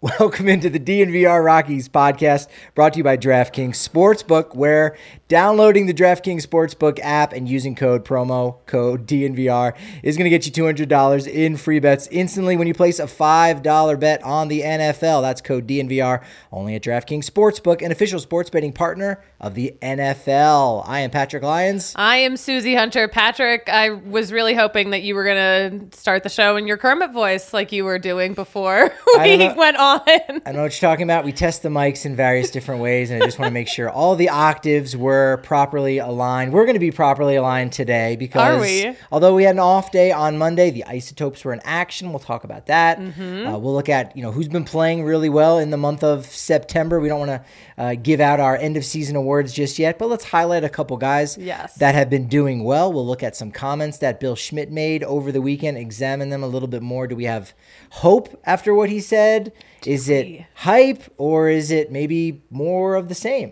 Welcome into the DNVR Rockies podcast, brought to you by DraftKings Sportsbook, where downloading the DraftKings Sportsbook app and using promo code DNVR is going to get you $200 in free bets instantly when you place a $5 bet on the NFL. That's code DNVR, only at DraftKings Sportsbook, an official sports betting partner of the NFL. I am Patrick Lyons. I am Susie Hunter. Patrick, I was really hoping that you were going to start the show in your Kermit voice like you were doing before we went on. I don't know what you're talking about. We test the mics in various different ways, and I just want to make sure all the octaves were properly aligned. We're going to be properly aligned today because although we had an off day on Monday, the Isotopes were in action. We'll talk about that. We'll look at who's been playing really well in the month of September. We don't want to give out our end of season awards just yet, but let's highlight a couple guys that have been doing well. We'll look at some comments that Bill Schmidt made over the weekend, examine them a little bit more. Do we have hope after what he said? Is it hype, or is it maybe more of the same?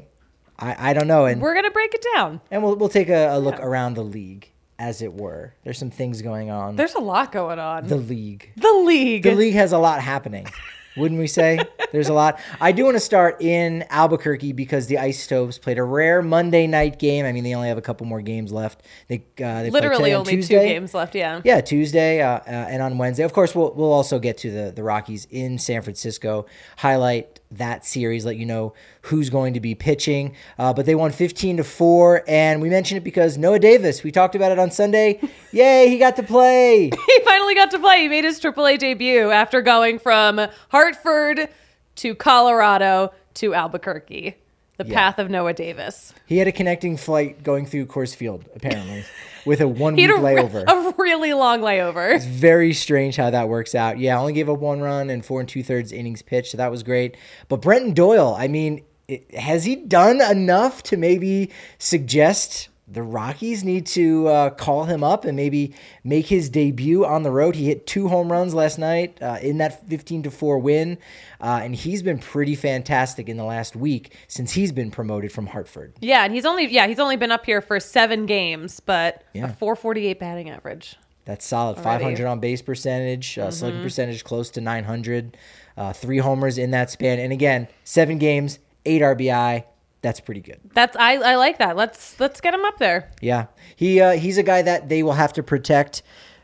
I don't know. And we're going to break it down. And we'll take a look around the league, as it were. There's some things going on. There's a lot going on. The league. The league has a lot happening. Wouldn't we say? There's a lot. I do want to start in Albuquerque because the Isotopes played a rare Monday night game. I mean, they only have a couple more games left. They literally only Tuesday. 2 games left, yeah. Yeah, Tuesday and on Wednesday. Of course, we'll also get to the Rockies in San Francisco, highlight that series, let you know who's going to be pitching. But they won 15-4, and we mentioned it because Noah Davis, we talked about it on Sunday. Yay, he got to play. He finally got to play. He made his AAA debut after going from Hartford to Colorado to Albuquerque. The path of Noah Davis. He had a connecting flight going through Coors Field, apparently, with a one-week layover. A really long layover. It's very strange how that works out. Yeah, only gave up 1 run and 4 2/3 innings pitched, so that was great. But Brenton Doyle, I mean, has he done enough to maybe suggest the Rockies need to call him up and maybe make his debut on the road? He hit 2 home runs last night in that 15-4 win, and he's been pretty fantastic in the last week since he's been promoted from Hartford. Yeah, and he's only been up here for 7 games, but a .448 batting average. That's solid. Already. 500 on base percentage, slugging percentage close to 900, 3 homers in that span, and again, 7 games, 8 RBI. That's pretty good. I like that. Let's get him up there. Yeah, he's a guy that they will have to protect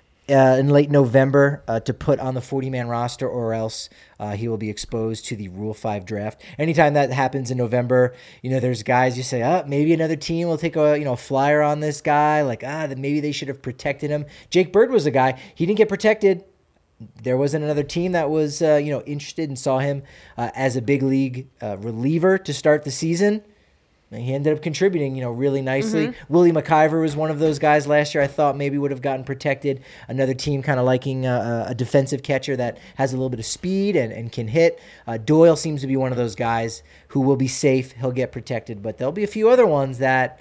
in late November to put on the 40-man roster, or else he will be exposed to the Rule 5 draft. Anytime that happens in November, there's guys you say, maybe another team will take a flyer on this guy, like that maybe they should have protected him. Jake Bird was a guy, he didn't get protected. There wasn't another team that was interested and saw him as a big league reliever to start the season. He ended up contributing, really nicely. Willie McIver was one of those guys last year I thought maybe would have gotten protected. Another team kind of liking a defensive catcher that has a little bit of speed and can hit. Doyle seems to be one of those guys who will be safe. He'll get protected. But there'll be a few other ones that,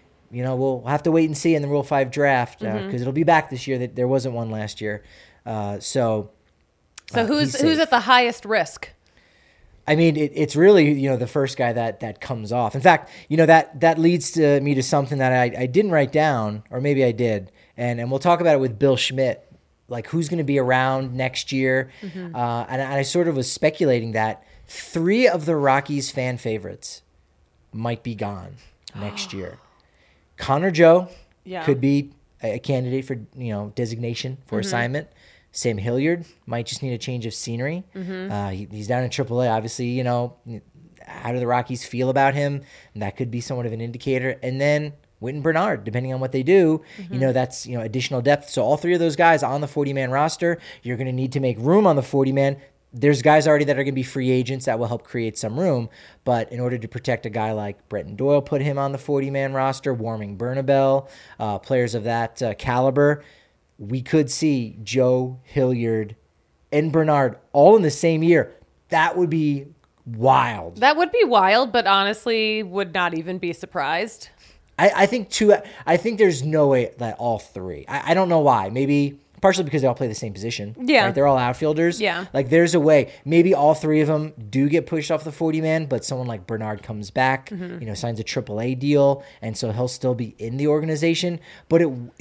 we'll have to wait and see in the Rule 5 draft because it'll be back this year. There wasn't one last year. So who's at the highest risk? I mean, it's really, the first guy that comes off. In fact, that leads me to something that I didn't write down, or maybe I did. And we'll talk about it with Bill Schmidt, like who's going to be around next year. And I sort of was speculating that 3 of the Rockies' fan favorites might be gone next year. Connor Joe could be a candidate for, designation for assignment. Sam Hilliard might just need a change of scenery. He's down in AAA. Obviously, how do the Rockies feel about him? That could be somewhat of an indicator. And then Witten Bernard, depending on what they do, that's additional depth. So all 3 of those guys on the 40-man roster, you're going to need to make room on the 40-man. There's guys already that are going to be free agents that will help create some room. But in order to protect a guy like Brenton Doyle, put him on the 40-man roster, Warming Bernabel, players of that caliber, we could see Joe, Hilliard, and Bernard all in the same year. That would be wild. That would be wild, but honestly would not even be surprised. I think there's no way that all 3. I don't know why. Maybe partially because they all play the same position. Yeah. Right? They're all outfielders. Yeah. Like there's a way. Maybe all three of them do get pushed off the 40-man, but someone like Bernard comes back, signs a AAA deal, and so he'll still be in the organization. But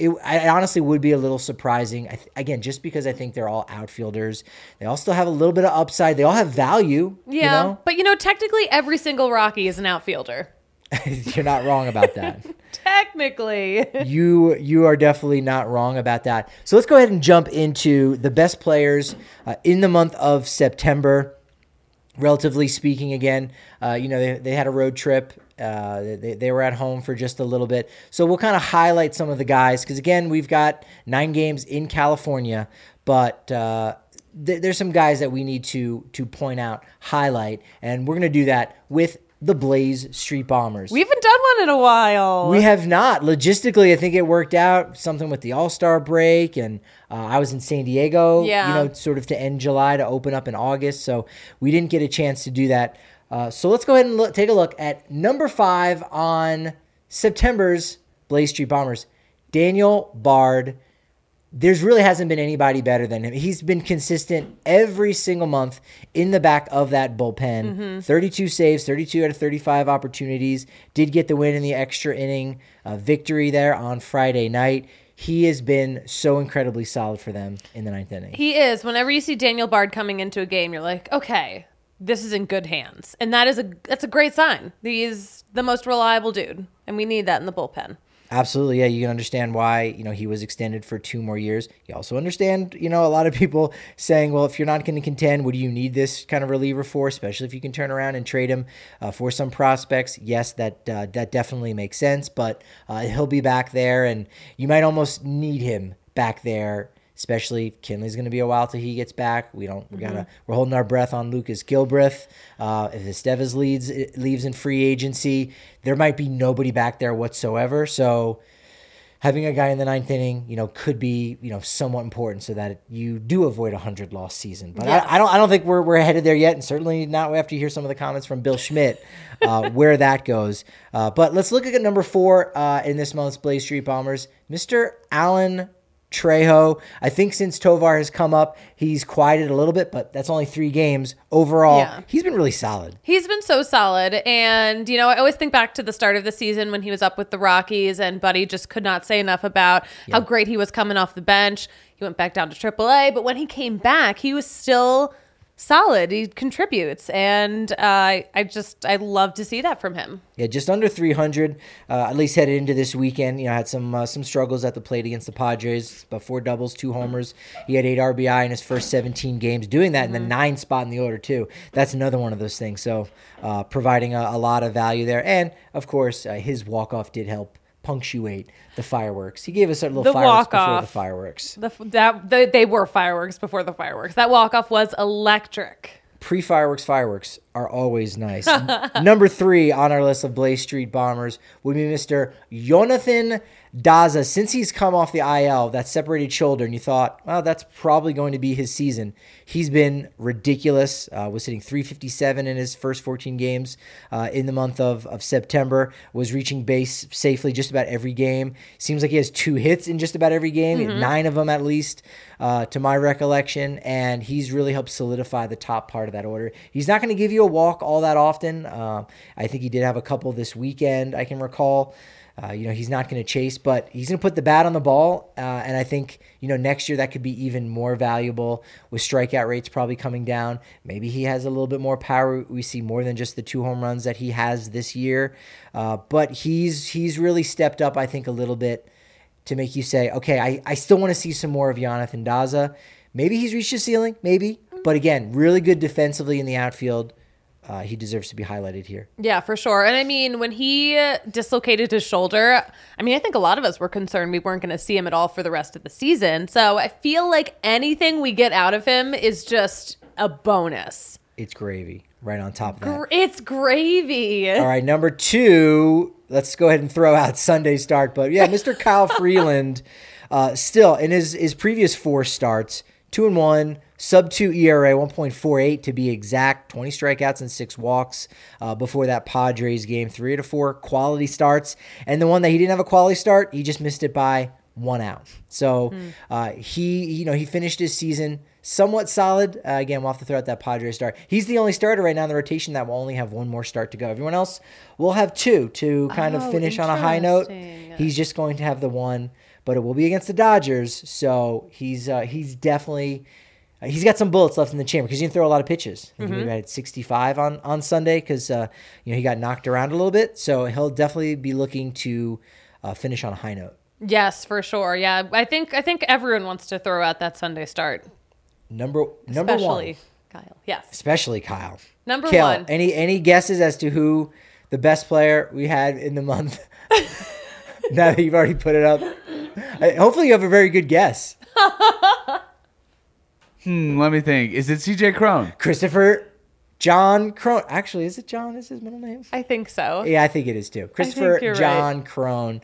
I honestly would be a little surprising. Again, just because I think they're all outfielders. They all still have a little bit of upside. They all have value. Yeah. But, technically every single Rocky is an outfielder. You're not wrong about that. Technically. You are definitely not wrong about that. So let's go ahead and jump into the best players in the month of September. Relatively speaking, again, they had a road trip. They were at home for just a little bit. So we'll kind of highlight some of the guys because, again, we've got 9 games in California, but there's some guys that we need to point out, highlight, and we're going to do that with the Blaze Street Bombers. We haven't done one in a while. We have not. Logistically, I think it worked out, something with the All-Star break, and I was in San Diego, sort of to end July to open up in August, so we didn't get a chance to do that. So let's go ahead and take a look at number 5 on September's Blaze Street Bombers, Daniel Bard. There's really hasn't been anybody better than him. He's been consistent every single month in the back of that bullpen. 32 saves, 32 out of 35 opportunities. Did get the win in the extra inning victory there on Friday night. He has been so incredibly solid for them in the 9th inning. He is. Whenever you see Daniel Bard coming into a game, you're like, okay, this is in good hands. And that's a great sign. He's the most reliable dude, and we need that in the bullpen. Absolutely, yeah. You can understand why, he was extended for 2 more years. You also understand, a lot of people saying, well, if you're not going to contend, what do you need this kind of reliever for, especially if you can turn around and trade him for some prospects? Yes, that definitely makes sense, but he'll be back there, and you might almost need him back there, especially if Kinley's going to be a while till he gets back. We're holding our breath on Lucas Gilbreth. If Estevez leaves in free agency, there might be nobody back there whatsoever. So having a guy in the 9th inning, could be, somewhat important so that you do avoid a 100-loss season. But yes. I don't think we're headed there yet, and certainly not after you hear some of the comments from Bill Schmidt where that goes. But let's look at number 4 in this month's Blaze Street Bombers, Mr. Alan Trejo. I think since Tovar has come up, he's quieted a little bit, but that's only 3 games. Overall, He's been really solid. He's been so solid. And, I always think back to the start of the season when he was up with the Rockies, and Buddy just could not say enough about how great he was coming off the bench. He went back down to AAA, but when he came back, he was still solid. He contributes, and I love to see that from him. Yeah, just under 300, at least headed into this weekend. Had some struggles at the plate against the Padres, about 4 doubles, 2 homers. He had 8 RBI in his first 17 games, doing that in the 9th spot in the order too. That's another one of those things. So providing a lot of value there, and of course his walk-off did help punctuate the fireworks. He gave us a little fireworks before the fireworks. They were fireworks before the fireworks. That walk-off was electric. Pre-fireworks fireworks are always nice. Number 3 on our list of Blaze Street Bombers would be Mr. Jonathan Daza. Since he's come off the IL, that separated shoulder, and you thought, well, that's probably going to be his season. He's been ridiculous. Was hitting .357 in his first 14 games in the month of September. Was reaching base safely just about every game. Seems like he has 2 hits in just about every game. He had 9 of them at least, to my recollection, and he's really helped solidify the top part of that order. He's not going to give you a walk all that often. I think he did have a couple this weekend, I can recall. He's not going to chase, but he's going to put the bat on the ball. And I think, next year that could be even more valuable with strikeout rates probably coming down. Maybe he has a little bit more power. We see more than just the 2 home runs that he has this year. But he's really stepped up, I think, a little bit to make you say, okay, I still want to see some more of Jonathan Daza. Maybe he's reached his ceiling, maybe. But again, really good defensively in the outfield. He deserves to be highlighted here. Yeah, for sure. And I mean, when he dislocated his shoulder, I think a lot of us were concerned we weren't going to see him at all for the rest of the season. So I feel like anything we get out of him is just a bonus. It's gravy right on top of that. It's gravy. All right, number 2, let's go ahead and throw out Sunday start. But yeah, Mr. Kyle Freeland, still in his previous 4 starts, 2-1, sub-2 ERA, 1.48 to be exact, 20 strikeouts and 6 walks before that Padres game, 3 out of 4 quality starts. And the one that he didn't have a quality start, he just missed it by 1 out. So he finished his season somewhat solid. Again, we'll have to throw out that Padres start. He's the only starter right now in the rotation that will only have one more start to go. Everyone else will have 2 to kind of finish on a high note. He's just going to have the 1, but it will be against the Dodgers. So he's definitely he's got some bullets left in the chamber because he didn't throw a lot of pitches. I think he had 65 on Sunday because he got knocked around a little bit. So he'll definitely be looking to finish on a high note. Yes, for sure. Yeah, I think everyone wants to throw out that Sunday start. Number Especially one. Kyle. Yes. Especially Kyle. Number Kale, 1. Any guesses as to who the best player we had in the month? Now that you've already put it up. Hopefully you have a very good guess. Let me think. Is it CJ Cron? Christopher John Crone. Actually, is it John? Is his middle name? I think so. Yeah, I think it is too. Christopher you're John right. Crone,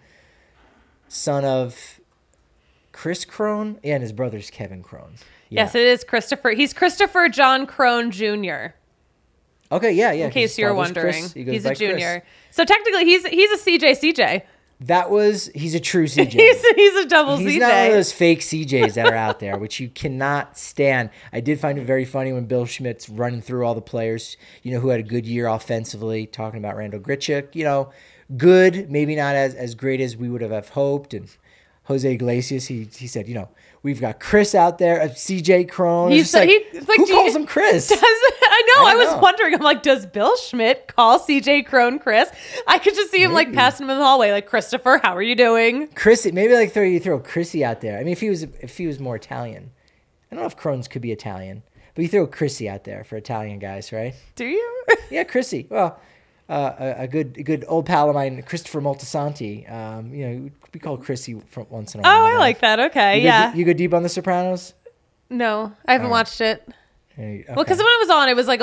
son of Chris Crone. Yeah, and his brother's Kevin Crone. Yeah. Yes, it is Christopher. He's Christopher John Crone Jr. Okay, yeah. In case you're wondering. Chris. He goes He's by a junior. Chris. So technically he's a CJ. He's a true CJ. He's a double He's CJ. not one of those fake CJs that are out there, which you cannot stand. I did find it very funny when Bill Schmidt's running through all the players, who had a good year offensively, talking about Randall Grichuk, good, maybe not as great as we would have hoped. And Jose Iglesias, he said, we've got Chris out there, CJ Crone. He's who calls him Chris? I was wondering. I'm like, does Bill Schmidt call CJ Crone Chris? I could just see him like passing him in the hallway, like, Christopher, how are you doing? Chrissy, maybe like throw Chrissy out there. I mean, if he was more Italian, I don't know if Crohn's could be Italian, but you throw Chrissy out there for Italian guys, right? Do you? Yeah, Chrissy. Well, a good old pal of mine, Christopher Moltisanti. We call Chrissy from once in a while. Oh, I like that. Okay, You go deep on The Sopranos? No, I haven't watched it. Okay. Well, because when it was on, it was like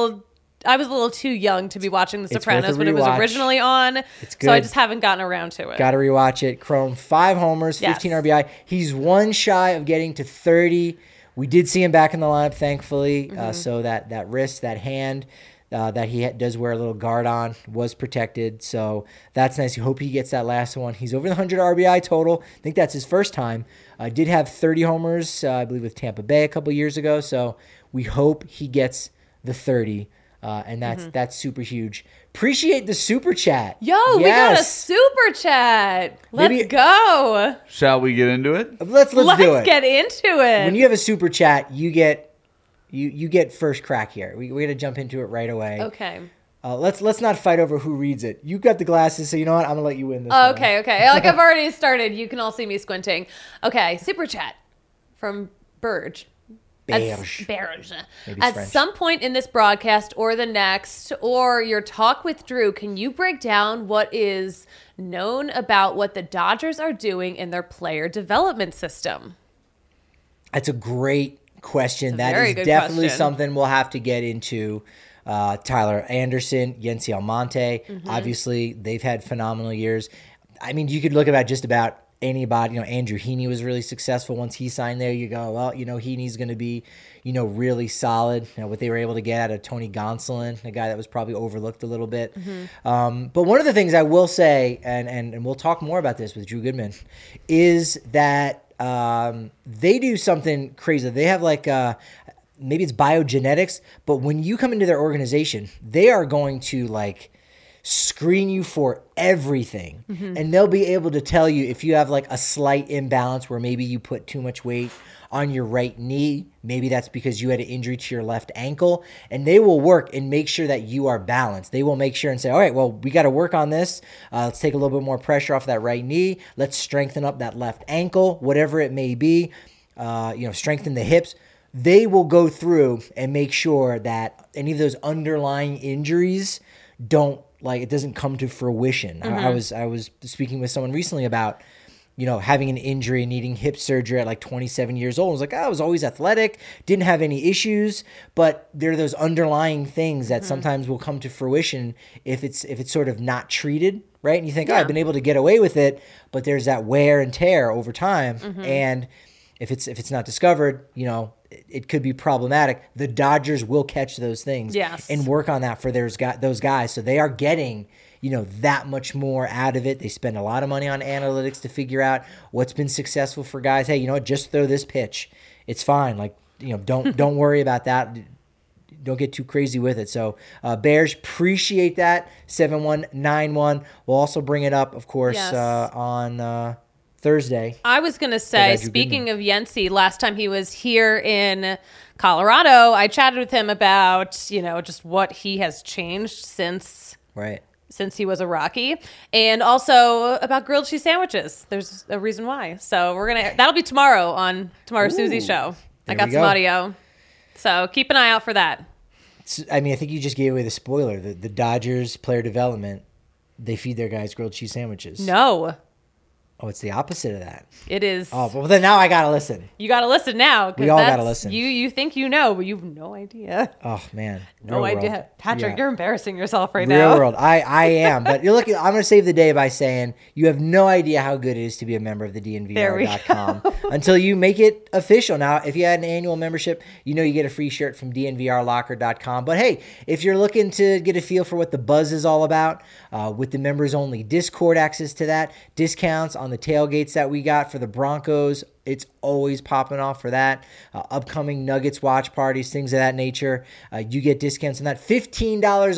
I was a little too young to be watching The It's Sopranos worth a when it was rewatch. originally on. It's So I good. just haven't gotten around to it. Got to rewatch it. Crone, 5 homers, 15 Yes. RBI. He's 1 shy of getting to 30. We did see him back in the lineup, thankfully. So that wrist, that hand that he does wear a little guard on was protected. So that's nice. You hope he gets that last one. He's over the 100 RBI total. I think that's his first time. Did have 30 homers, I believe, with Tampa Bay a couple years ago. So we hope he gets the 30. And that's super huge. Appreciate the super chat. Yo, we got a super chat. Let's go. Shall we get into it? Let's do it. Let's get into it. When you have a super chat, you get first crack here. We got to jump into it right away. Okay. Let's not fight over who reads it. You got the glasses, so you know what? I'm gonna let you win this. one. Okay. Like I've already started. You can all see me squinting. Okay, super chat from Burge. Berge. Berge. Maybe it's At French. some point in this broadcast or the next, or your talk with Drew, can you break down what is known about what the Dodgers are doing in their player development system? That's a great question. That very is good definitely question. something we'll have to get into. Tyler Anderson, Yency Almonte. Obviously, they've had phenomenal years. I mean, you could look at just about anybody. Andrew Heaney was really successful once he signed there. You go, well, Heaney's going to be, really solid. What they were able to get out of Tony Gonsolin, a guy that was probably overlooked a little bit. But one of the things I will say, and we'll talk more about this with Drew Goodman, is that they do something crazy. They have maybe it's biogenetics, but when you come into their organization, they are going to screen you for everything. And they'll be able to tell you if you have a slight imbalance where maybe you put too much weight on your right knee. Maybe that's because you had an injury to your left ankle, and they will work and make sure that you are balanced. They will make sure and say, all right, well, we got to work on this. Let's take a little bit more pressure off that right knee. Let's strengthen up that left ankle, whatever it may be, strengthen the hips. They will go through and make sure that any of those underlying injuries it doesn't come to fruition. I was speaking with someone recently about, having an injury and needing hip surgery at 27 years old. I was like, I was always athletic, didn't have any issues, but there are those underlying things that sometimes will come to fruition if it's sort of not treated, right? And you think, I've been able to get away with it, but there's that wear and tear over time. And if it's not discovered, it could be problematic. The Dodgers will catch those things Yes. and work on that for those guys. So they are getting, that much more out of it. They spend a lot of money on analytics to figure out what's been successful for guys. Hey, just throw this pitch. It's fine. Like, don't worry about that. Don't get too crazy with it. So Bears, appreciate that. 7191. We'll also bring it up, of course, Yes. On Thursday. I was going to say, speaking of Yency, last time he was here in Colorado, I chatted with him about, just what he has changed since he was a Rocky, and also about grilled cheese sandwiches. There's a reason why. So that'll be tomorrow on Susie's show. I got some audio. So keep an eye out for that. I think you just gave away the spoiler. The Dodgers player development, they feed their guys grilled cheese sandwiches. No. Oh, it's the opposite of that. It is. Oh, well then now I got to listen. You got to listen now. We all got to listen. You think but you have no idea. Oh, man. No idea. World. Patrick, You're embarrassing yourself right Real now. Real world. I am. But I'm going to save the day by saying you have no idea how good it is to be a member of the DNVR.com until you make it official. Now, if you had an annual membership, you get a free shirt from DNVRlocker.com. But hey, if you're looking to get a feel for what the buzz is all about, with the members only Discord access to that, discounts on the tailgates that we got for the Broncos, it's always popping off for that. Upcoming Nuggets watch parties, things of that nature. You get discounts on that. $15%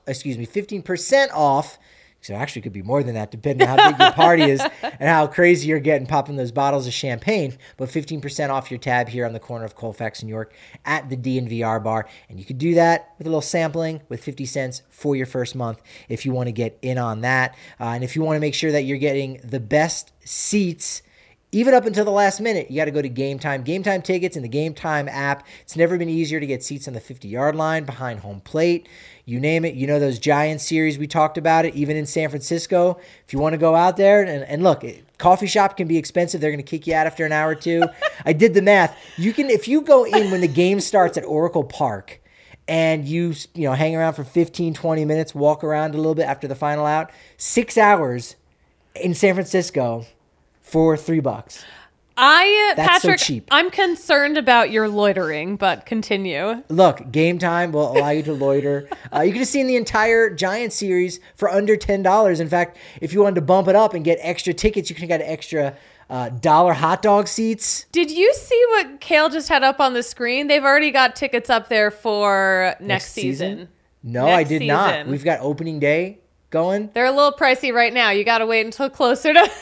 off. So it actually could be more than that, depending on how big your party is and how crazy you're getting popping those bottles of champagne. But 15% off your tab here on the corner of Colfax and York at the DNVR bar. And you could do that with a little sampling with 50 cents for your first month if you want to get in on that. And if you want to make sure that you're getting the best seats, even up until the last minute, you got to go to Game Time. Game Time tickets in the Game Time app. It's never been easier to get seats on the 50-yard line, behind home plate. You name it. Those Giants series, we talked about it, even in San Francisco. If you want to go out there, and look, coffee shop can be expensive. They're going to kick you out after an hour or two. I did the math. If you go in when the game starts at Oracle Park, and you hang around for 15, 20 minutes, walk around a little bit after the final out, 6 hours in San Francisco for $3. That's Patrick, so cheap. I'm concerned about your loitering, but continue. Look, Game Time will allow you to loiter. You can just see the entire Giants series for under $10. In fact, if you wanted to bump it up and get extra tickets, you can get extra dollar hot dog seats. Did you see what Kale just had up on the screen? They've already got tickets up there for next season. No, I did not. We've got opening day going. They're a little pricey right now. You got to wait until closer to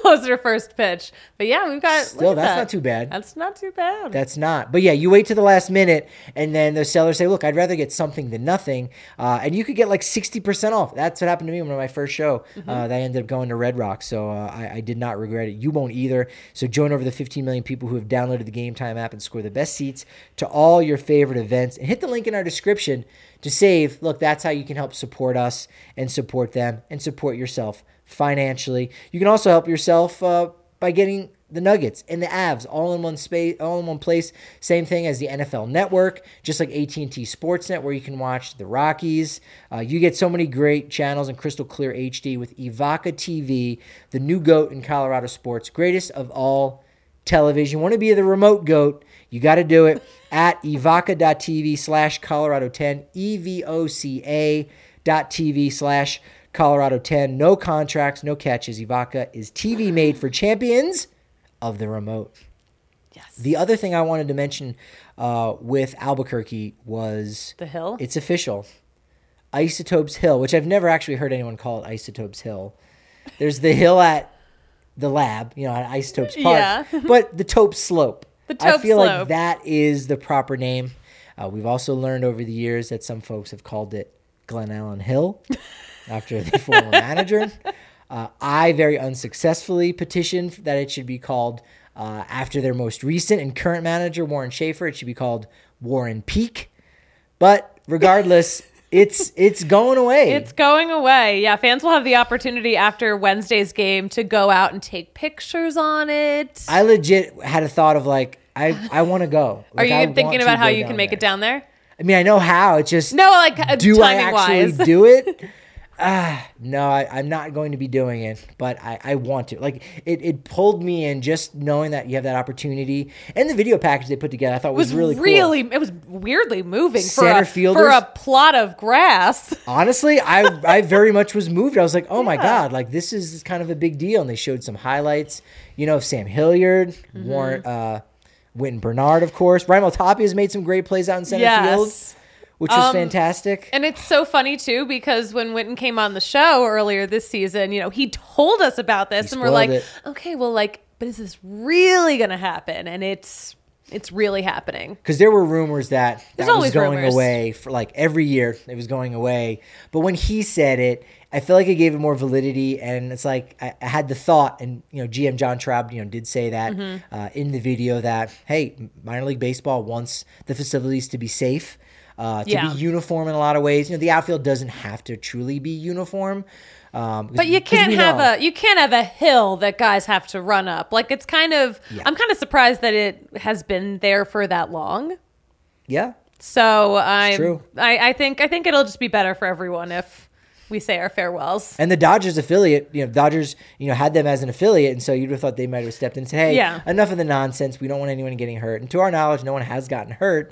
first pitch. But yeah, we've got... Still, that's not too bad. That's not too bad. That's not. But yeah, you wait to the last minute, and then the sellers say, look, I'd rather get something than nothing. And you could get like 60% off. That's what happened to me on my first show. That I ended up going to Red Rock. So I did not regret it. You won't either. So join over the 15 million people who have downloaded the Game Time app and score the best seats to all your favorite events. And hit the link in our description to save. Look, that's how you can help support us and support them and support yourself financially. You can also help yourself by getting the Nuggets and the Avs all in one space, all in one place. Same thing as the NFL Network, just like AT&T Sportsnet, where you can watch the Rockies. You get so many great channels in crystal clear HD with Evoca TV, the new GOAT in Colorado sports, greatest of all television. You want to be the remote GOAT, you got to do it at evoca.tv/Colorado10, evoca.tv/Colorado10. No contracts, no catches. Evoca is TV made for champions of the remote. Yes. The other thing I wanted to mention with Albuquerque was... The Hill? It's official. Isotopes Hill, which I've never actually heard anyone call it Isotopes Hill. There's the hill at the lab, at Isotopes Park. Yeah. But the Tope Slope. The Tope I feel Slope. like that is the proper name. We've also learned over the years that some folks have called it Glen Allen Hill after the former manager. I very unsuccessfully petitioned that it should be called, after their most recent and current manager, Warren Schaefer, it should be called Warren Peak. But regardless, it's going away. It's going away. Yeah, fans will have the opportunity after Wednesday's game to go out and take pictures on it. I legit had a thought of I want to go. Are you thinking about how you can make it down there? I mean, I know how. It's just No, like do I actually timing-wise. do it? No, I'm not going to be doing it, but I want to. Like, it pulled me in just knowing that you have that opportunity. And the video package they put together, I thought was really cool. It was weirdly moving Center for fielders. a plot of grass. Honestly, I very much was moved. I was like, oh my God, like this is kind of a big deal. And they showed some highlights, of Sam Hilliard, Wynton Bernard, of course. Raimel Tapia has made some great plays out in center field, which was fantastic. And it's so funny, too, because when Wynton came on the show earlier this season, he told us about this. And we're like, okay, well, but is this really going to happen? And it's really happening. Because there were rumors that was going rumors. away for every year. It was going away. But when he said it, I feel like it gave it more validity. And it's like I had the thought, and GM John Traub, did say that in the video that, hey, minor league baseball wants the facilities to be safe. To be uniform in a lot of ways. The outfield doesn't have to truly be uniform. But you can't have a hill that guys have to run up. It's kind of, I'm kind of surprised that it has been there for that long. Yeah. So true. I think it'll just be better for everyone if we say our farewells. And the Dodgers affiliate, Dodgers, had them as an affiliate. And so you'd have thought they might have stepped in and said, hey, enough of the nonsense. We don't want anyone getting hurt. And to our knowledge, no one has gotten hurt.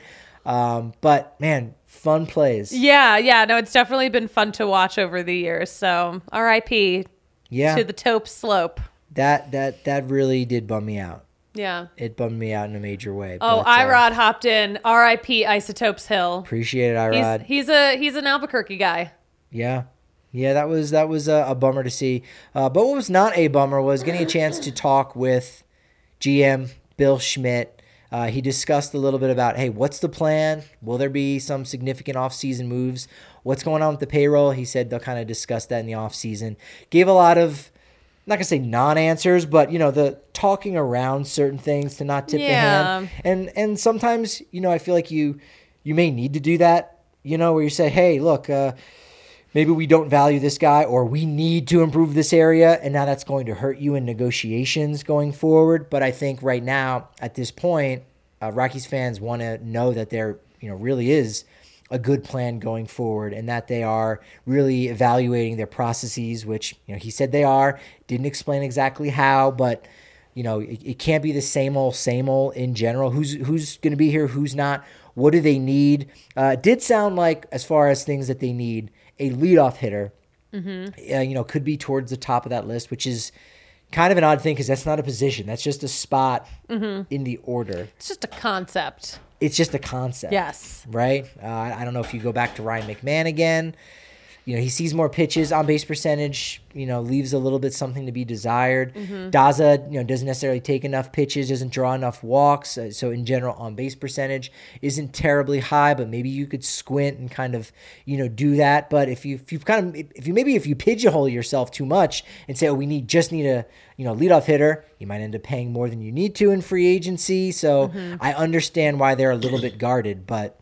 But man, fun plays. Yeah. No, it's definitely been fun to watch over the years. So RIP to the taupe slope. That really did bum me out. Yeah. It bummed me out in a major way. Oh, Irod hopped in. RIP Isotopes Hill. Appreciate it, Irod. He's an Albuquerque guy. Yeah. Yeah, that was a bummer to see. But what was not a bummer was getting a chance to talk with GM Bill Schmidt. He discussed a little bit about, hey, what's the plan? Will there be some significant offseason moves? What's going on with the payroll? He said they'll kind of discuss that in the offseason. Gave a lot of, I'm not going to say non-answers, but, the talking around certain things to not tip the hand. And sometimes, I feel like you may need to do that, where you say, hey, look, maybe we don't value this guy, or we need to improve this area, and now that's going to hurt you in negotiations going forward. But I think right now, at this point, Rockies fans want to know that there, really is a good plan going forward, and that they are really evaluating their processes, which, he said they are. Didn't explain exactly how, but it can't be the same old in general. Who's going to be here? Who's not? What do they need? It did sound like, as far as things that they need, a leadoff hitter, could be towards the top of that list, which is kind of an odd thing because that's not a position. That's just a spot in the order. It's just a concept. It's just a concept. Yes. Right? I don't know if you go back to Ryan McMahon again. He sees more pitches. On base percentage, leaves a little bit something to be desired. Daza, doesn't necessarily take enough pitches, doesn't draw enough walks. So in general, on base percentage isn't terribly high, but maybe you could squint and kind of, do that. But if you pigeonhole yourself too much and say, oh, we just need a, leadoff hitter, you might end up paying more than you need to in free agency. So I understand why they're a little bit guarded, but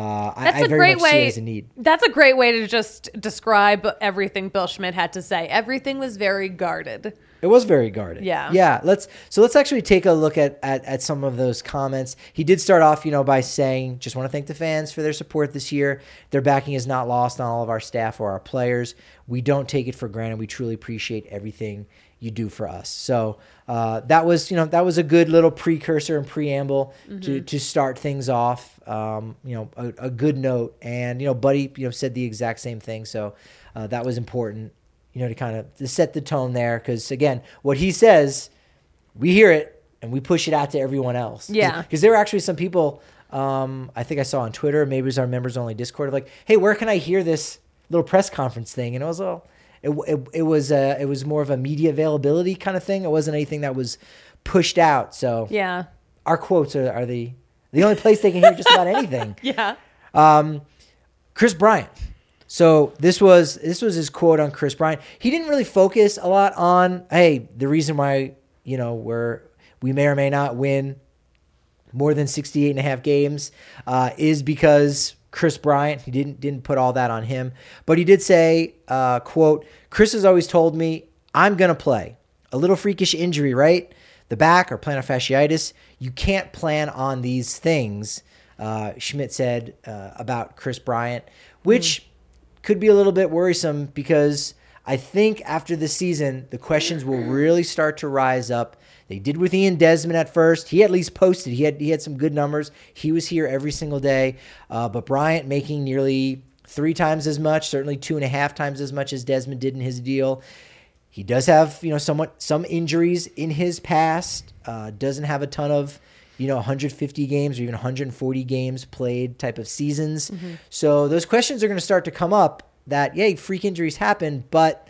I very much see it as a need. That's a great way to just describe everything Bill Schmidt had to say. Everything was very guarded. It was very guarded. Yeah. Yeah. Let's actually take a look at some of those comments. He did start off, by saying, just want to thank the fans for their support this year. Their backing is not lost on all of our staff or our players. We don't take it for granted. We truly appreciate everything you do for us. So that was a good little precursor and preamble to start things off. A good note, and Buddy said the exact same thing. So that was important, to kind of to set the tone there, because again, what he says, we hear it and we push it out to everyone else. Yeah, because there were actually some people I think I saw on Twitter, maybe it was our members only Discord, of like, hey, where can I hear this little press conference thing? And it was it was more of a media availability kind of thing. It wasn't anything that was pushed out. So yeah, our quotes are the only place they can hear just about anything. Yeah. Chris Bryant. So this was his quote on Chris Bryant. He didn't really focus a lot on, hey, the reason why, we may or may not win more than 68.5 games is because Chris Bryant. He didn't put all that on him. But he did say, quote, Chris has always told me, I'm going to play. A little freakish injury, right? The back or plantar fasciitis. You can't plan on these things, Schmidt said about Chris Bryant, which could be a little bit worrisome because I think after the season, the questions will really start to rise up. They did with Ian Desmond at first. He at least posted. He had some good numbers. He was here every single day. But Bryant making nearly 3 times as much, certainly 2.5 times as much as Desmond did in his deal. He does have, some injuries in his past. Doesn't have a ton of, 150 games or even 140 games played type of seasons. Mm-hmm. So those questions are going to start to come up that, freak injuries happen, but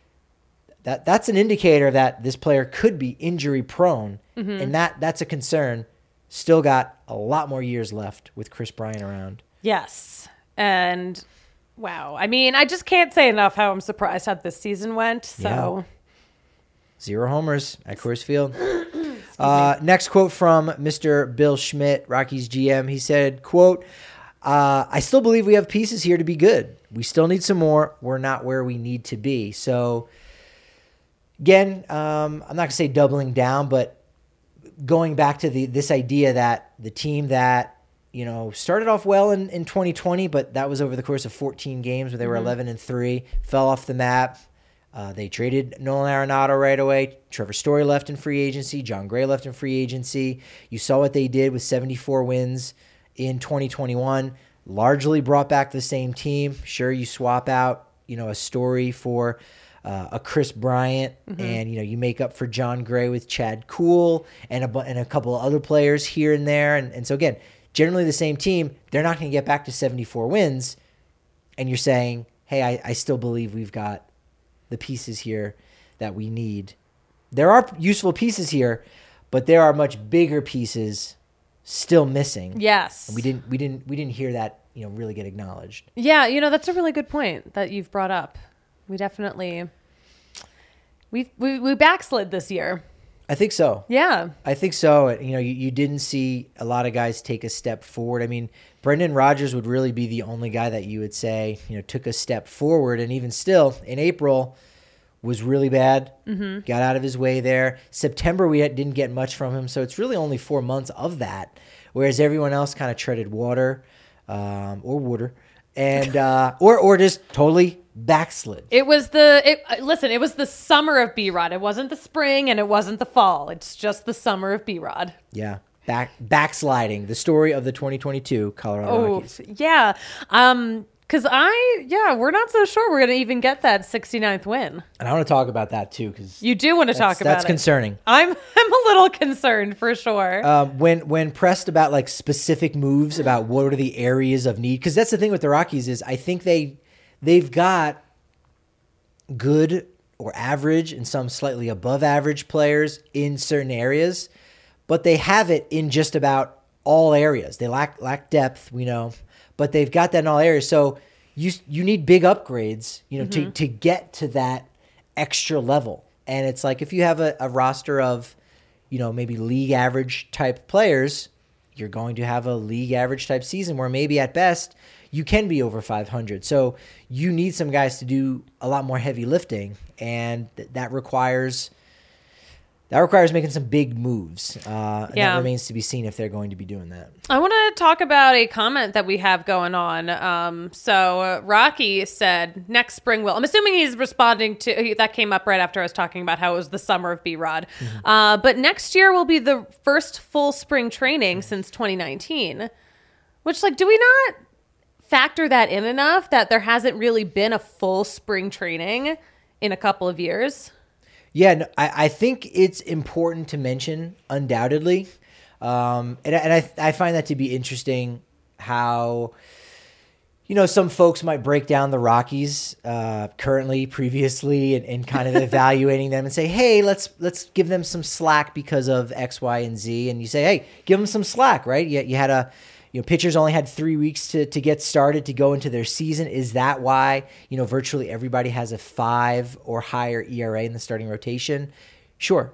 that's an indicator that this player could be injury prone. Mm-hmm. And that's a concern. Still got a lot more years left with Kris Bryant around. Yes. And wow. I mean, I just can't say enough how I'm surprised how this season went. So 0 homers at Coors Field. Next quote from Mr. Bill Schmidt, Rockies GM. He said, quote, I still believe we have pieces here to be good. We still need some more. We're not where we need to be. So again, I'm not going to say doubling down, but going back to this idea that the team that, started off well in 2020, but that was over the course of 14 games where they were 11-3, fell off the map. They traded Nolan Arenado right away. Trevor Story left in free agency. John Gray left in free agency. You saw what they did with 74 wins in 2021. Largely brought back the same team. Sure, you swap out, a Story for a Kris Bryant, and you make up for John Gray with Chad Kuhl and a couple of other players here and there. And so again, generally the same team. They're not going to get back to 74 wins, and you're saying, hey, I still believe we've got the pieces here that we need. There are useful pieces here, but there are much bigger pieces still missing. Yes. And we didn't hear that, really get acknowledged. Yeah, that's a really good point that you've brought up. We definitely we backslid this year. I think so. Yeah. I think so. You didn't see a lot of guys take a step forward. I mean, Brendan Rodgers would really be the only guy that you would say, took a step forward. And even still, in April, was really bad. Mm-hmm. Got out of his way there. September, we didn't get much from him. So it's really only 4 months of that. Whereas everyone else kind of treaded water or water. And or just totally backslid. It was the summer of B-Rod. It wasn't the spring and it wasn't the fall. It's just the summer of B-Rod. Yeah. Backsliding, the story of the 2022 Colorado Rockies. Yeah. Because we're not so sure we're going to even get that 69th win. And I want to talk about that too, because you do want to talk about it. That's concerning. I'm a little concerned for sure. When pressed about like specific moves about what are the areas of need, because that's the thing with the Rockies is I think they've got good or average and some slightly above average players in certain areas, but they have it in just about all areas. They lack depth, we know, but they've got that in all areas. So you need big upgrades, to get to that extra level. And it's like if you have a roster of, maybe league average type players, you're going to have a league average type season where maybe at best you can be over 500. So you need some guys to do a lot more heavy lifting, and that requires making some big moves. And that remains to be seen if they're going to be doing that. I want to talk about a comment that we have going on. So Rocky said next spring will. I'm assuming he's responding to that came up right after I was talking about how it was the summer of B-Rod. Mm-hmm. But next year will be the first full spring training since 2019. Which, do we not factor that in enough that there hasn't really been a full spring training in a couple of years? Yeah, no, I think it's important to mention, undoubtedly. And I find that to be interesting how, some folks might break down the Rockies currently, previously, and kind of evaluating them and say, hey, let's give them some slack because of X, Y, and Z. And you say, hey, give them some slack, right? You had pitchers only had 3 weeks to get started to go into their season. Is that why, virtually everybody has a 5 or higher ERA in the starting rotation? Sure.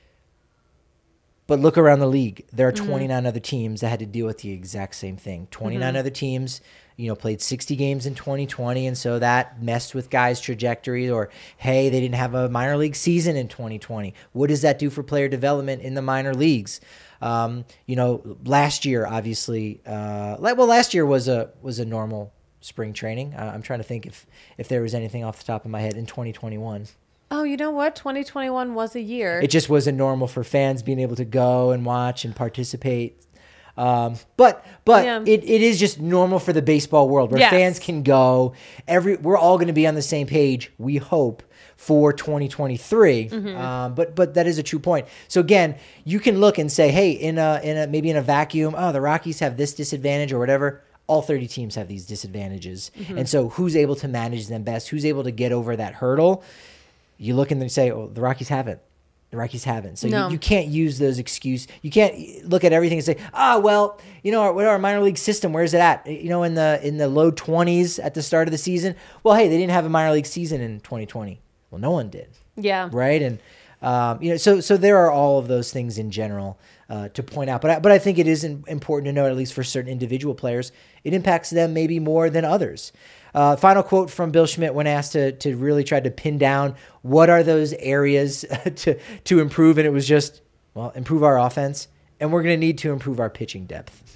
But look around the league. There are 29 other teams that had to deal with the exact same thing. 29 other teams, played 60 games in 2020, and so that messed with guys' trajectories. Or, hey, they didn't have a minor league season in 2020. What does that do for player development in the minor leagues? Last year, obviously, last year was a normal spring training. I'm trying to think if there was anything off the top of my head in 2021. Oh, you know what? 2021 was a year. It just wasn't normal for fans being able to go and watch and participate. But Yeah. it is just normal for the baseball world where Yes. fans can go. We're all going to be on the same page, we hope, for 2023. But that is a true point. So again, you can look and say, hey, maybe in a vacuum, the Rockies have this disadvantage or whatever. All 30 teams have these disadvantages. And so who's able to manage them best? Who's able to get over that hurdle? You look and then say, oh, the Rockies haven't. The Rockies haven't. So No. you can't use those excuses. You can't look at everything and say, our minor league system, where's it at? In the low 20s at the start of the season. Well, hey, they didn't have a minor league season in 2020. Well, no one did. Yeah. Right. And, so there are all of those things in general to point out. But I think it is important to know, at least for certain individual players, it impacts them maybe more than others. Final quote from Bill Schmidt when asked to really try to pin down what are those areas to improve. And it was just, improve our offense. And we're going to need to improve our pitching depth.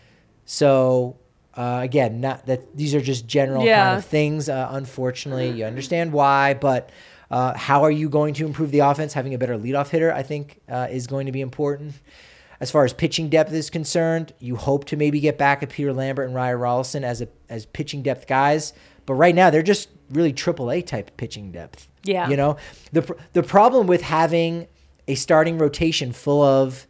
So, again, not that these are just general kind of things. Unfortunately, you understand why, but how are you going to improve the offense? Having a better leadoff hitter, I think, is going to be important. As far as pitching depth is concerned, you hope to maybe get back at Peter Lambert and Ryan Rollison as pitching depth guys. But right now, they're just really AAA type pitching depth. Yeah. The problem with having a starting rotation full of,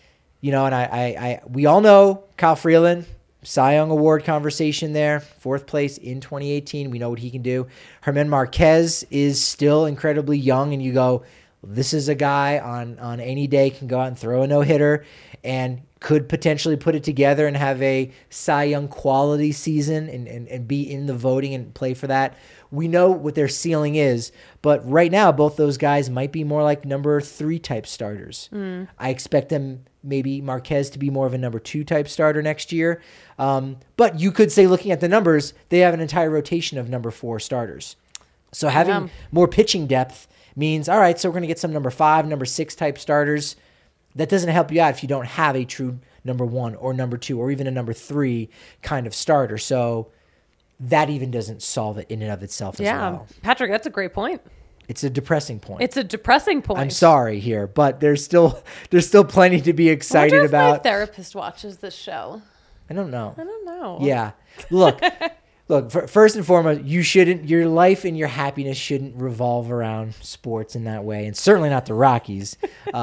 and we all know Kyle Freeland, Cy Young Award conversation there, 4th place in 2018. We know what he can do. Germán Marquez is still incredibly young, and you go, this is a guy on any day can go out and throw a no-hitter and could potentially put it together and have a Cy Young quality season and be in the voting and play for that. We know what their ceiling is, but right now both those guys might be more like number 3 type starters. I expect them, maybe Marquez, to be more of a number 2 type starter next year. But you could say, looking at the numbers, they have an entire rotation of number 4 starters. So having more pitching depth means, all right, so we're going to get some number 5, number 6 type starters. That doesn't help you out if you don't have a true number 1 or number 2 or even a number 3 kind of starter. So that even doesn't solve it in and of itself as well. Patrick, that's a great point. It's a depressing point. I'm sorry here, but there's still plenty to be excited I wonder if about. my therapist watches this show. I don't know. Yeah. Look, first and foremost, your life and your happiness shouldn't revolve around sports in that way, and certainly not the Rockies,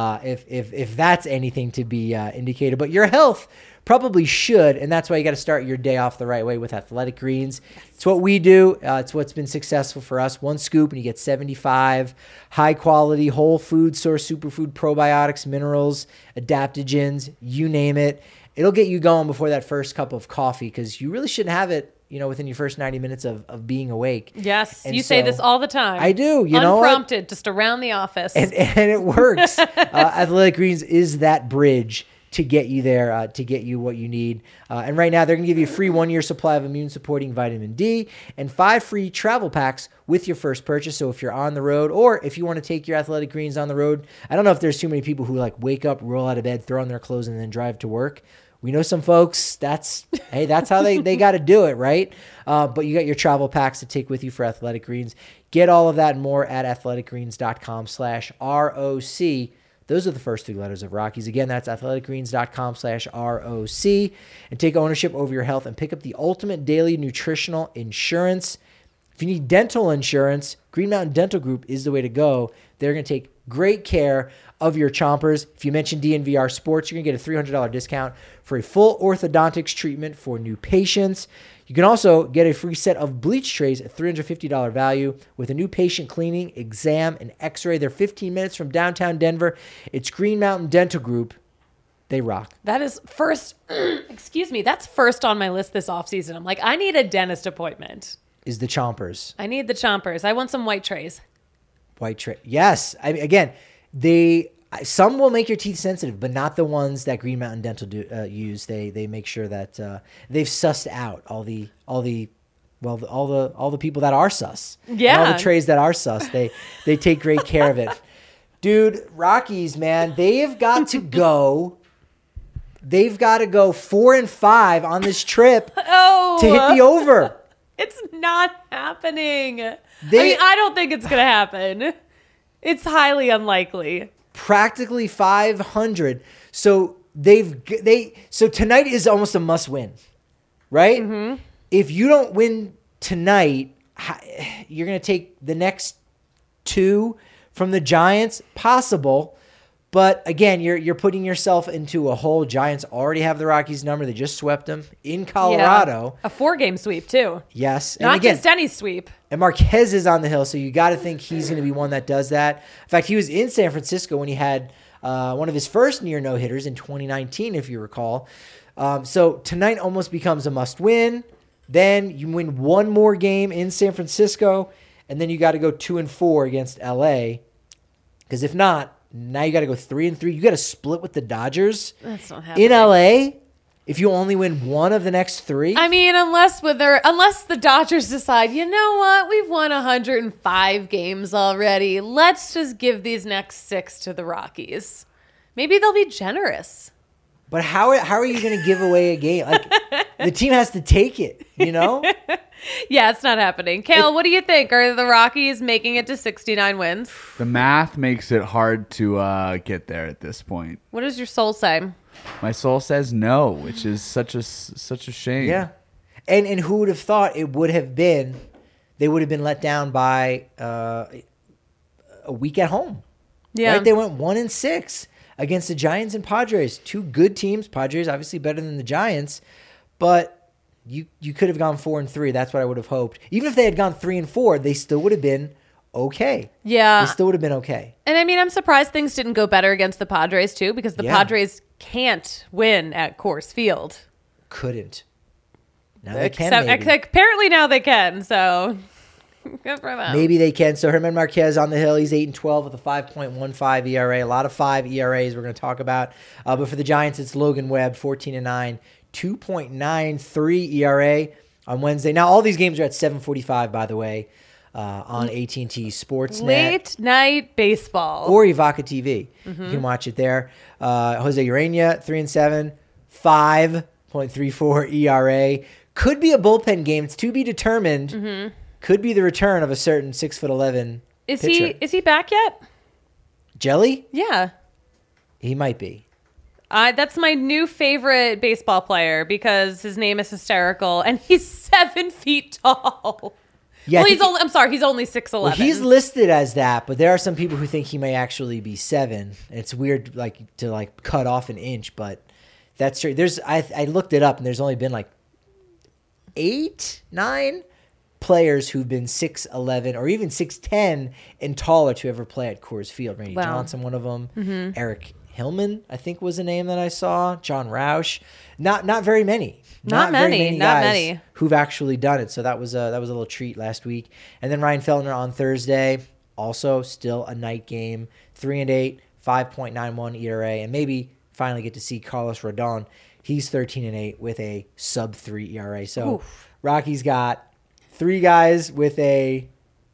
if that's anything to be indicated. But your health probably should, and that's why you got to start your day off the right way with Athletic Greens. It's what we do. It's what's been successful for us. 1 scoop, and you get 75 high-quality whole food source superfood probiotics, minerals, adaptogens, you name it. It'll get you going before that first cup of coffee, because you really shouldn't have it within your first 90 minutes of being awake. Yes, and you say this all the time. I do. Unprompted, just around the office. And it works. Athletic Greens is that bridge to get you there, to get you what you need. And right now, they're going to give you a free 1-year supply of immune-supporting vitamin D and 5 free travel packs with your first purchase. So if you're on the road, or if you want to take your Athletic Greens on the road, I don't know if there's too many people who wake up, roll out of bed, throw on their clothes, and then drive to work. We know some folks, that's how they got to do it, right? But you got your travel packs to take with you for Athletic Greens. Get all of that and more at athleticgreens.com/ROC. Those are the first 3 letters of Rockies. Again, that's athleticgreens.com/ROC. And take ownership over your health and pick up the ultimate daily nutritional insurance. If you need dental insurance, Green Mountain Dental Group is the way to go. They're going to take great care of your chompers. If you mention DNVR Sports, you're going to get a $300 discount for a full orthodontics treatment for new patients. You can also get a free set of bleach trays at $350 value with a new patient cleaning, exam, and x-ray. They're 15 minutes from downtown Denver. It's Green Mountain Dental Group. They rock. That is first, that's first on my list this offseason. I'm like, I need a dentist appointment. Is the chompers. I need the chompers. I want some white trays. White tray. Yes. Again, some will make your teeth sensitive, but not the ones that Green Mountain Dental use. They make sure that they've sussed out all the people that are sus. Yeah. And all the trays that are sus. They take great care of it. Dude, Rockies, man, they have got to go. They've got to go 4-5 on this trip to hit the over. It's not happening. I They- mean, I don't think it's going to happen. It's highly unlikely. Practically 500. So so tonight is almost a must win, right? Mm-hmm. If you don't win tonight, you're going to take the next 2 from the Giants, possible. But again, you're putting yourself into a hole. Giants already have the Rockies number. They just swept them in Colorado. Yeah. A 4-game sweep, too. Yes. And Not again, just any sweep. and Marquez is on the hill, so you got to think he's going to be one that does that. In fact, he was in San Francisco when he had one of his first near no-hitters in 2019, if you recall. So tonight almost becomes a must-win. Then you win one more game in San Francisco, and then you got to go 2-4 against LA. Because if not, now you got to go 3-3. You got to split with the Dodgers That's not happening. in LA. If you only win one of the next 3, I mean, unless the Dodgers decide, you know what, we've won 105 games already. Let's just give these next 6 to the Rockies. Maybe they'll be generous. but how are you going to give away a game? Like the team has to take it, you know? Yeah, it's not happening. Kale, what do you think? Are the Rockies making it to 69 wins? The math makes it hard to get there at this point. What does your soul say? My soul says no, which is such a shame. Yeah. And who would have thought it would have been, they would have been let down by a week at home. Yeah. Right? They went 1-6 against the Giants and Padres. 2 good teams. Padres obviously better than the Giants, but you could have gone 4-3. That's what I would have hoped. Even if they had gone 3-4, they still would have been okay. Yeah. They still would have been okay. And I mean, I'm surprised things didn't go better against the Padres, too, because the Yeah. Padres can't win at Coors Field. Couldn't. Now they can, Except, maybe. apparently now they can, so good for them. Maybe they can. So Herman Marquez on the hill. He's 8-12 with a 5.15 ERA. A lot of 5 ERAs we're going to talk about. But for the Giants, it's Logan Webb, 14-9, 2.93 ERA on Wednesday. Now all these games are at 7:45, by the way, on AT&T Sportsnet Late night baseball. or Evoca TV. You can watch it there. Jose Urena, 3-7, 5.34 ERA. Could be a bullpen game. It's to be determined. Could be the return of a certain 6'11" pitcher. Is he back yet? Jelly? Yeah. He might be. That's my new favorite baseball player because his name is hysterical and he's 7 feet tall. Yeah, I well, think he's only 6'11". well, he's listed as that, but there are some people who think he may actually be 7. It's weird, to cut off an inch, but that's true. I looked it up, and there's only been 8, 9 players who've been 6'11" or even 6'10" and taller to ever play at Coors Field. Randy Wow. Johnson, one of them. Eric Hillman, I think, was a name that I saw. John Roush. Not very many. Not very many, not guys many. who've actually done it. So that was a little treat last week. And then Ryan Feltner on Thursday, also still a night game, 3-8, 5.91 ERA, and maybe finally get to see Carlos Rodon. He's 13-8 with a sub-3 ERA. So Rockies got 3 guys with a,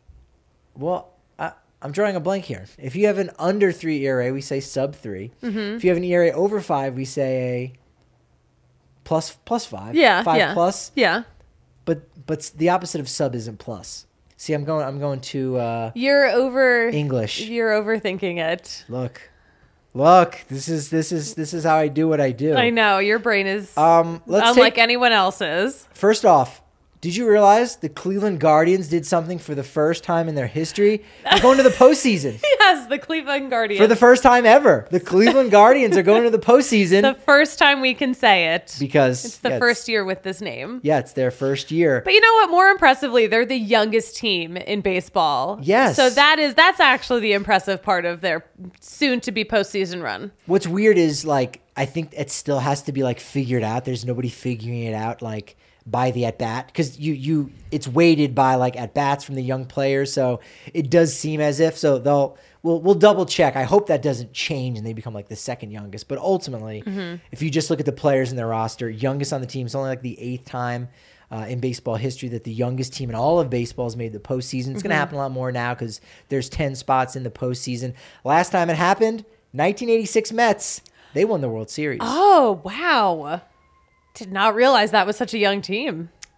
I'm drawing a blank here. If you have an under 3 ERA, we say sub-3. If you have an ERA over 5, we say a plus 5. Yeah, 5 yeah. plus. Yeah. But the opposite of sub isn't plus. See, I'm going to You're English. You're overthinking it. Look. This is how I do what I do. I know your brain is Let's unlike take, anyone else's. first off, did you realize the Cleveland Guardians did something for the first time in their history? They're going to the postseason. Yes, the Cleveland Guardians. For the first time ever. The Cleveland Guardians are going to the postseason the first time we can say it. because It's the first year with this name. Yeah, it's their first year. But you know what? More impressively, they're the youngest team in baseball. Yes. So that's actually the impressive part of their soon-to-be postseason run. What's weird is I think it still has to be figured out. There's nobody figuring it out by the at bat because it's weighted by at bats from the young players. So it does seem as if we'll double check. I hope that doesn't change and they become the second youngest. But ultimately, if you just look at the players in their roster, youngest on the team is only the 8th time in baseball history that the youngest team in all of baseball has made the postseason. It's going to happen a lot more now because there's 10 spots in the postseason. Last time it happened, 1986 Mets. They won the World Series. Oh, wow. Did not realize that was such a young team.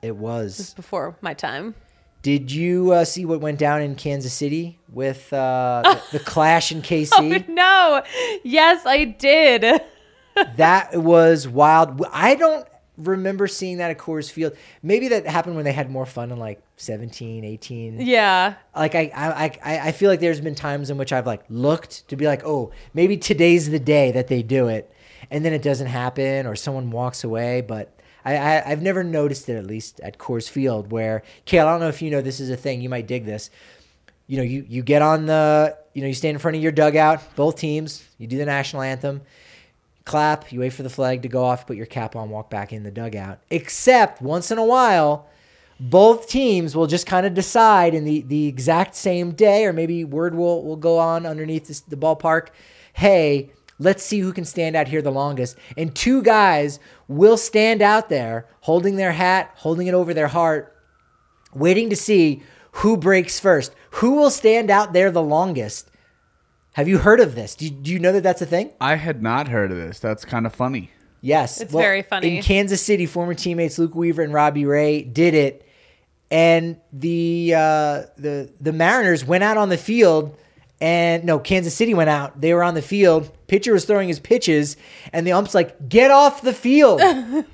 It was. Just before my time. Did you see what went down in Kansas City with the clash in KC? Oh, no. Yes, I did. That was wild. I don't remember seeing that at Coors Field. Maybe that happened when they had more fun in like 17, 18. Yeah. Like I feel like there's been times in which I've like looked to be like, oh, maybe today's the day that they do it, and then it doesn't happen or someone walks away. But I've never noticed it, at least at Coors Field, where, Kale, I don't know if you know this is a thing. You might dig this. You know, you get on you stand in front of your dugout, both teams. You do the national anthem. Clap, you wait for the flag to go off, put your cap on, walk back in the dugout. Except once in a while, both teams will just kind of decide in the exact same day, or maybe word will go on underneath the ballpark, hey, let's see who can stand out here the longest. And two guys will stand out there holding their hat, holding it over their heart, waiting to see who breaks first. Who will stand out there the longest? Have you heard of this? Do you know that that's a thing? I had not heard of this. That's kind of funny. Yes. It's very funny. In Kansas City, former teammates Luke Weaver and Robbie Ray did it. And the Mariners went out on the field. And no, Kansas City went out. They were on the field. Pitcher was throwing his pitches. And the ump's like, get off the field.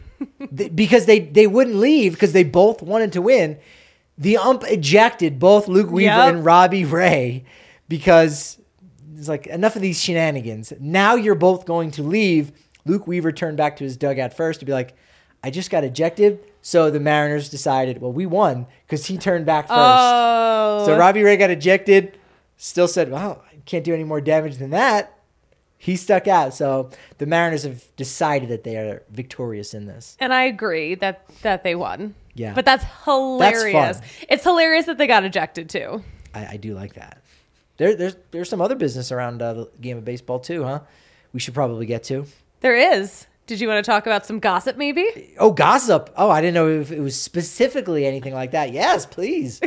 Because they wouldn't leave because they both wanted to win. The ump ejected both Luke Weaver and Robbie Ray because it's like, enough of these shenanigans. Now you're both going to leave. Luke Weaver turned back to his dugout first to be like, I just got ejected. So the Mariners decided, well, we won because he turned back first. Oh. So Robbie Ray got ejected. Still said, well, I can't do any more damage than that. He stuck out. So the Mariners have decided that they are victorious in this. And I agree that they won. Yeah. But that's hilarious. That's fun. It's hilarious that they got ejected too. I do like that. There's some other business around the game of baseball too, huh? We should probably get to. There is. Did you want to talk about some gossip maybe? Oh, gossip. Oh, I didn't know if it was specifically anything like that. Yes, please.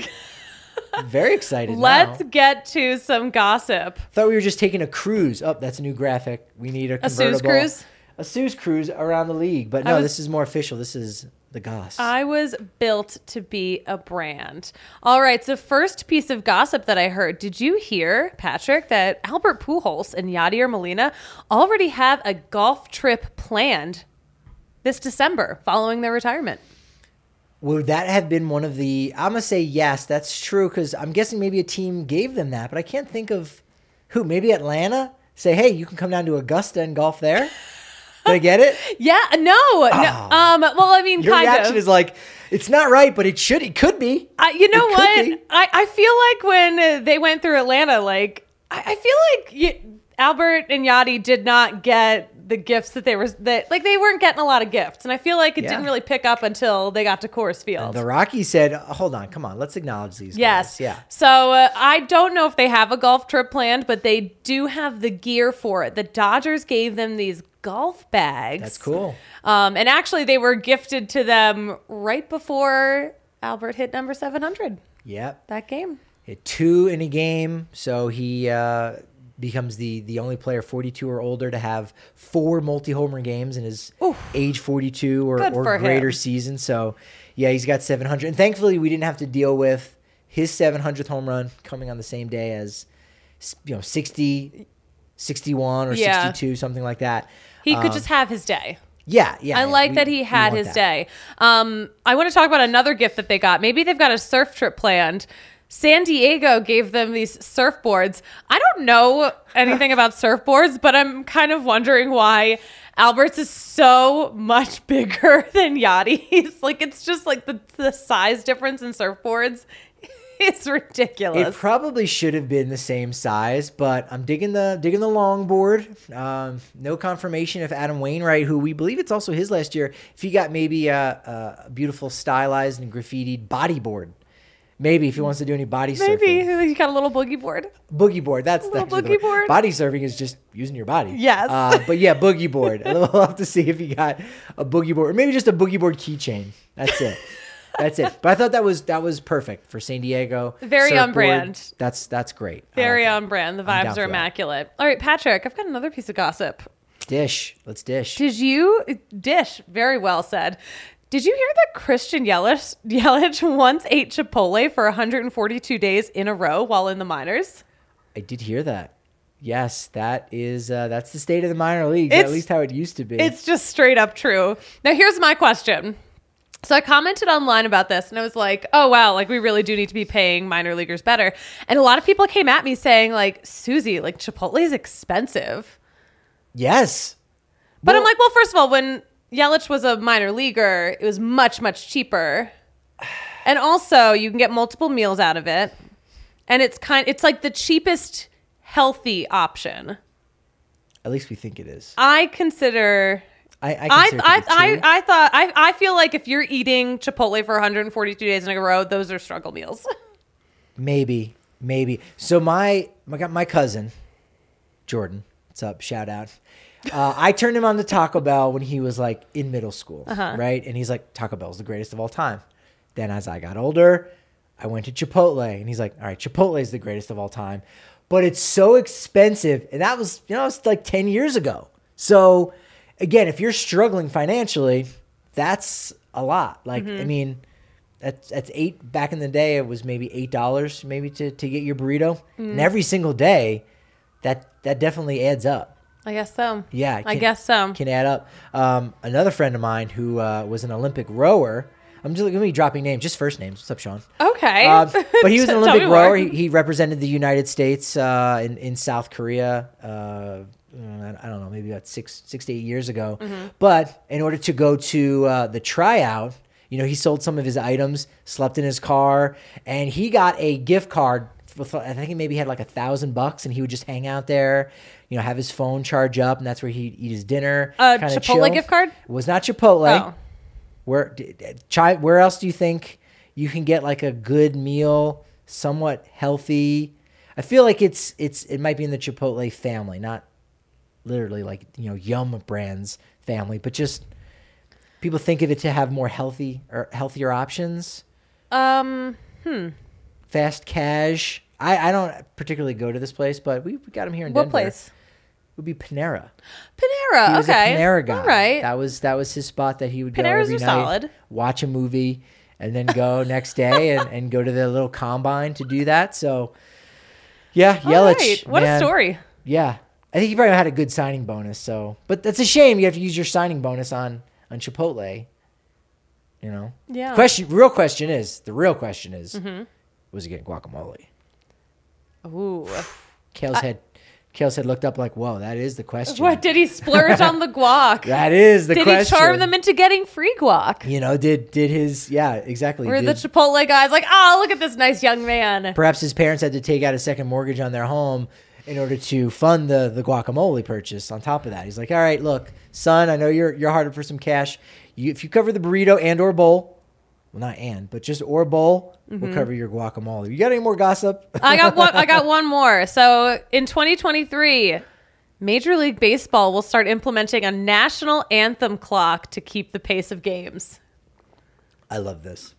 Very excited. Let's now. get to some gossip. Thought we were just taking a cruise. Oh, that's a new graphic. We need a convertible. Suze cruise? A Suze cruise around the league. But no, this is more official. This is the goss. I was built to be a brand. All right, so first piece of gossip that I heard. Did you hear, Patrick, that Albert Pujols and Yadier Molina already have a golf trip planned this December following their retirement? Would that have been one of the... I'm going to say yes, that's true, because I'm guessing maybe a team gave them that, but I can't think of who. Maybe Atlanta? Say, hey, you can come down to Augusta and golf there? Did I get it? Yeah, no. Well, I mean, Your kind of. reaction is like, it's not right, but it could be. You know It what? could be. I feel like when they went through Atlanta, like, I feel like Albert and Yachty did not get the gifts that they weren't getting a lot of gifts. And I feel like it didn't really pick up until they got to Coors Field. And the Rockies said, hold on, come on, let's acknowledge these Yes. guys. Yeah. So I don't know if they have a golf trip planned, but they do have the gear for it. The Dodgers gave them these golf bags. That's cool. And actually, they were gifted to them right before Albert hit number 700. Yep. That game. Hit 2 in a game, so he becomes the only player 42 or older to have 4 multi-homer games in his age 42 or greater him. season. So, yeah, he's got 700. And thankfully, we didn't have to deal with his 700th home run coming on the same day as, 60, 61, or 62, something like that. He could just have his day. Yeah. I like that he had his day. I want to talk about another gift that they got. Maybe they've got a surf trip planned. San Diego gave them these surfboards. I don't know anything about surfboards, but I'm kind of wondering why Albert's is so much bigger than Yachty's. Like, it's just like the size difference in surfboards is ridiculous. It probably should have been the same size, but I'm digging the longboard. No confirmation if Adam Wainwright, who we believe it's also his last year, if he got maybe a beautiful stylized and graffitied bodyboard. Maybe if he wants to do any body surfing. Maybe he got a little boogie board. Boogie board. That's little actually the boogie word. board. Body surfing is just using your body. Yes. But yeah, boogie board. We'll have to see if he got a boogie board, or maybe just a boogie board keychain. That's it. That's it. But I thought that was perfect for San Diego. Very on brand. That's great. Very like on brand. The I'm vibes down are for that. immaculate. All right, Patrick, I've got another piece of gossip. Dish. Let's dish. Did you dish? Very well said. Did you hear that Christian Yelich once ate Chipotle for 142 days in a row while in the minors? I did hear that. Yes, that's the state of the minor leagues, at least how it used to be. It's just straight up true. Now, here's my question. So I commented online about this and I was like, oh, wow, like we really do need to be paying minor leaguers better. And a lot of people came at me saying like, Susie, like Chipotle is expensive. Yes. But I'm like, well, first of all, when Yelich was a minor leaguer, it was much, much cheaper. And also you can get multiple meals out of it. And it's like the cheapest healthy option. At least we think it is. I consider... I feel like if you're eating Chipotle for 142 days in a row, those are struggle meals. Maybe. So my cousin, Jordan, what's up? Shout out. I turned him on to Taco Bell when he was like in middle school, right? And he's like, Taco Bell's the greatest of all time. Then as I got older, I went to Chipotle, and he's like, all right, Chipotle is the greatest of all time, but it's so expensive, and that was it's like 10 years ago. So. Again, if you're struggling financially, that's a lot. Like, I mean, that's $8 back in the day. It was maybe $8 maybe to get your burrito. And every single day, that definitely adds up. I guess so. Yeah. I guess so. Can add up. Another friend of mine who was an Olympic rower. I'm just going to be dropping names, just first names. What's up, Sean? Okay. But he was an Olympic rower. He represented the United States in South Korea. I don't know, maybe about 6 to 8 years ago. But in order to go to the tryout, he sold some of his items, slept in his car, and he got a gift card. I think he maybe had like $1,000, and he would just hang out there, have his phone charge up, and that's where he'd eat his dinner. Chipotle chill. gift card? It was not Chipotle. Oh. Where else do you think you can get like a good meal, somewhat healthy? I feel like it might be in the Chipotle family, not literally like Yum Brands family, but just people think of it to have more healthier options. Fast cash. I don't particularly go to this place, but we got them here in Denver. What place? It would be Panera. Panera. He was okay. a Panera guy. All right. That was his spot that he would go Paneras every are night, solid. watch a movie, and then go next day and go to the little combine to do that. So yeah, Yelich. Right. What a story. Yeah. I think he probably had a good signing bonus. So, but that's a shame. You have to use your signing bonus on Chipotle. Yeah. The real question is, was he getting guacamole? Ooh. Kale's head looked up like, whoa, that is the question. What, did he splurge on the guac? That is the question. Did he charm them into getting free guac? Did his, yeah, exactly. Were the Chipotle guys like, oh, look at this nice young man. Perhaps his parents had to take out a second mortgage on their home in order to fund the guacamole purchase on top of that. He's like, all right, look, son, I know you're hard for some cash. If you cover the burrito and or bowl, well, not but just or bowl, we'll cover your guacamole. You got any more gossip? I got one more. So in 2023, Major League Baseball will start implementing a national anthem clock to keep the pace of games. I love this.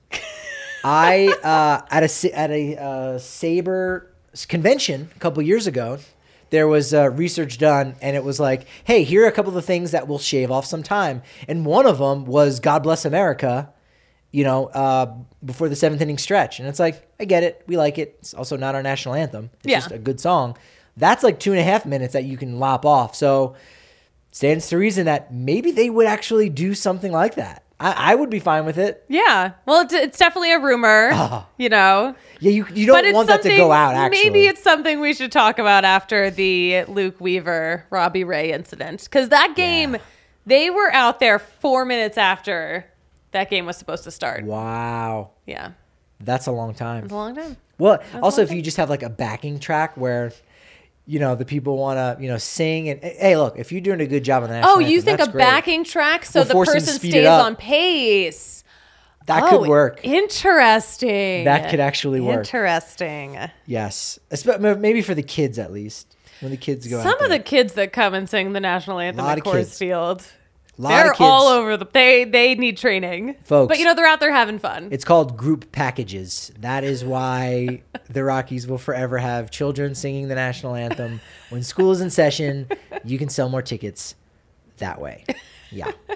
At a Sabre convention a couple years ago, there was research done, and it was like, hey, here are a couple of the things that will shave off some time. And one of them was God Bless America, before the seventh inning stretch. And it's like, I get it. We like it. It's also not our national anthem. It's just a good song. That's like 2.5 minutes that you can lop off. So stands to reason that maybe they would actually do something like that. I would be fine with it. Yeah. Well, it's definitely a rumor, Yeah, you don't want that to go out, actually. Maybe it's something we should talk about after the Luke Weaver, Robbie Ray incident. Because that game, they were out there 4 minutes after that game was supposed to start. Wow. Yeah. That's a long time. It's a long time. Well, also, if you just have like a backing track where... the people want to, sing. And hey, look, if you're doing a good job on the national anthem, you think that's a great. backing track so the We'll force them to person speed stays it up. on pace? That could work. Interesting. That could actually work. Interesting. Yes. Maybe for the kids, at least. When the kids go out Some of there. the kids that come and sing the national anthem at Coors Field, They're all over they need training. Folks. But, they're out there having fun. It's called group packages. That is why the Rockies will forever have children singing the national anthem. When school is in session, you can sell more tickets that way. Yeah.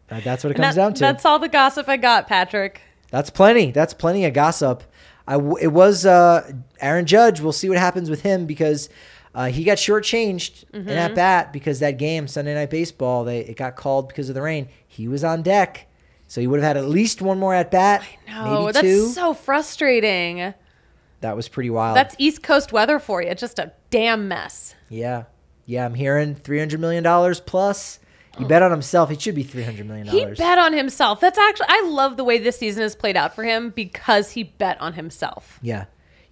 That's what it comes down to. That's all the gossip I got, Patrick. That's plenty. That's plenty of gossip. It was Aaron Judge. We'll see what happens with him because he got shortchanged in at bat because that game, Sunday Night Baseball, it got called because of the rain. He was on deck, so he would have had at least one more at bat. I know. Maybe That's two. so frustrating. That was pretty wild. That's East Coast weather for you. Just a damn mess. Yeah. I'm hearing $300 million plus. He bet on himself. It should be $300 million. He bet on himself. That's actually, I love the way this season has played out for him because he bet on himself. Yeah.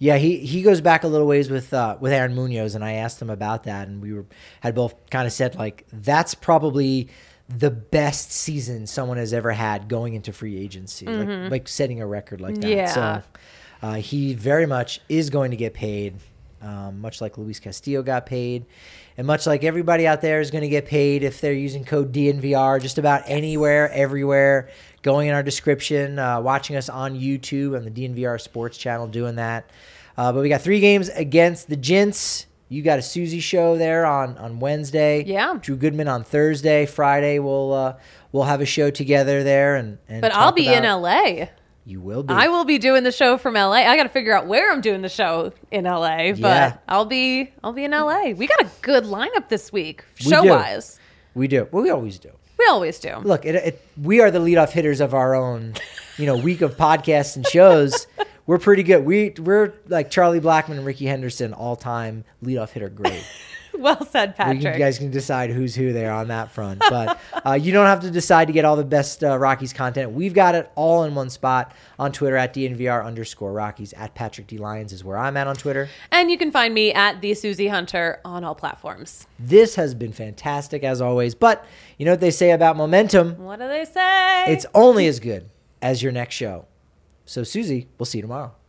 He goes back a little ways with Aaron Munoz, and I asked him about that, and we had both kind of said like that's probably the best season someone has ever had going into free agency, like setting a record like that. Yeah. So he very much is going to get paid, much like Luis Castillo got paid. And much like everybody out there is going to get paid if they're using code DNVR just about anywhere, everywhere, going in our description, watching us on YouTube on the DNVR Sports channel doing that. But we got 3 games against the Gents. You got a Susie show there on Wednesday. Yeah. Drew Goodman on Thursday. Friday we'll have a show together there. And I'll be in LA. You will be. I will be doing the show from LA. I got to figure out where I'm doing the show in LA, but Yeah. I'll be in LA. We got a good lineup this week, We show do. wise. We do. Well, we always do. We always do. Look, we are the leadoff hitters of our own, week of podcasts and shows. We're pretty good. We're like Charlie Blackmon and Ricky Henderson, all-time leadoff hitter great. Well said, Patrick. You guys can decide who's who there on that front. But you don't have to decide to get all the best Rockies content. We've got it all in one spot on Twitter at DNVR_Rockies. At Patrick D. Lyons is where I'm at on Twitter. And you can find me at the Susie Hunter on all platforms. This has been fantastic as always. But you know what they say about momentum? What do they say? It's only as good as your next show. So, Susie, we'll see you tomorrow.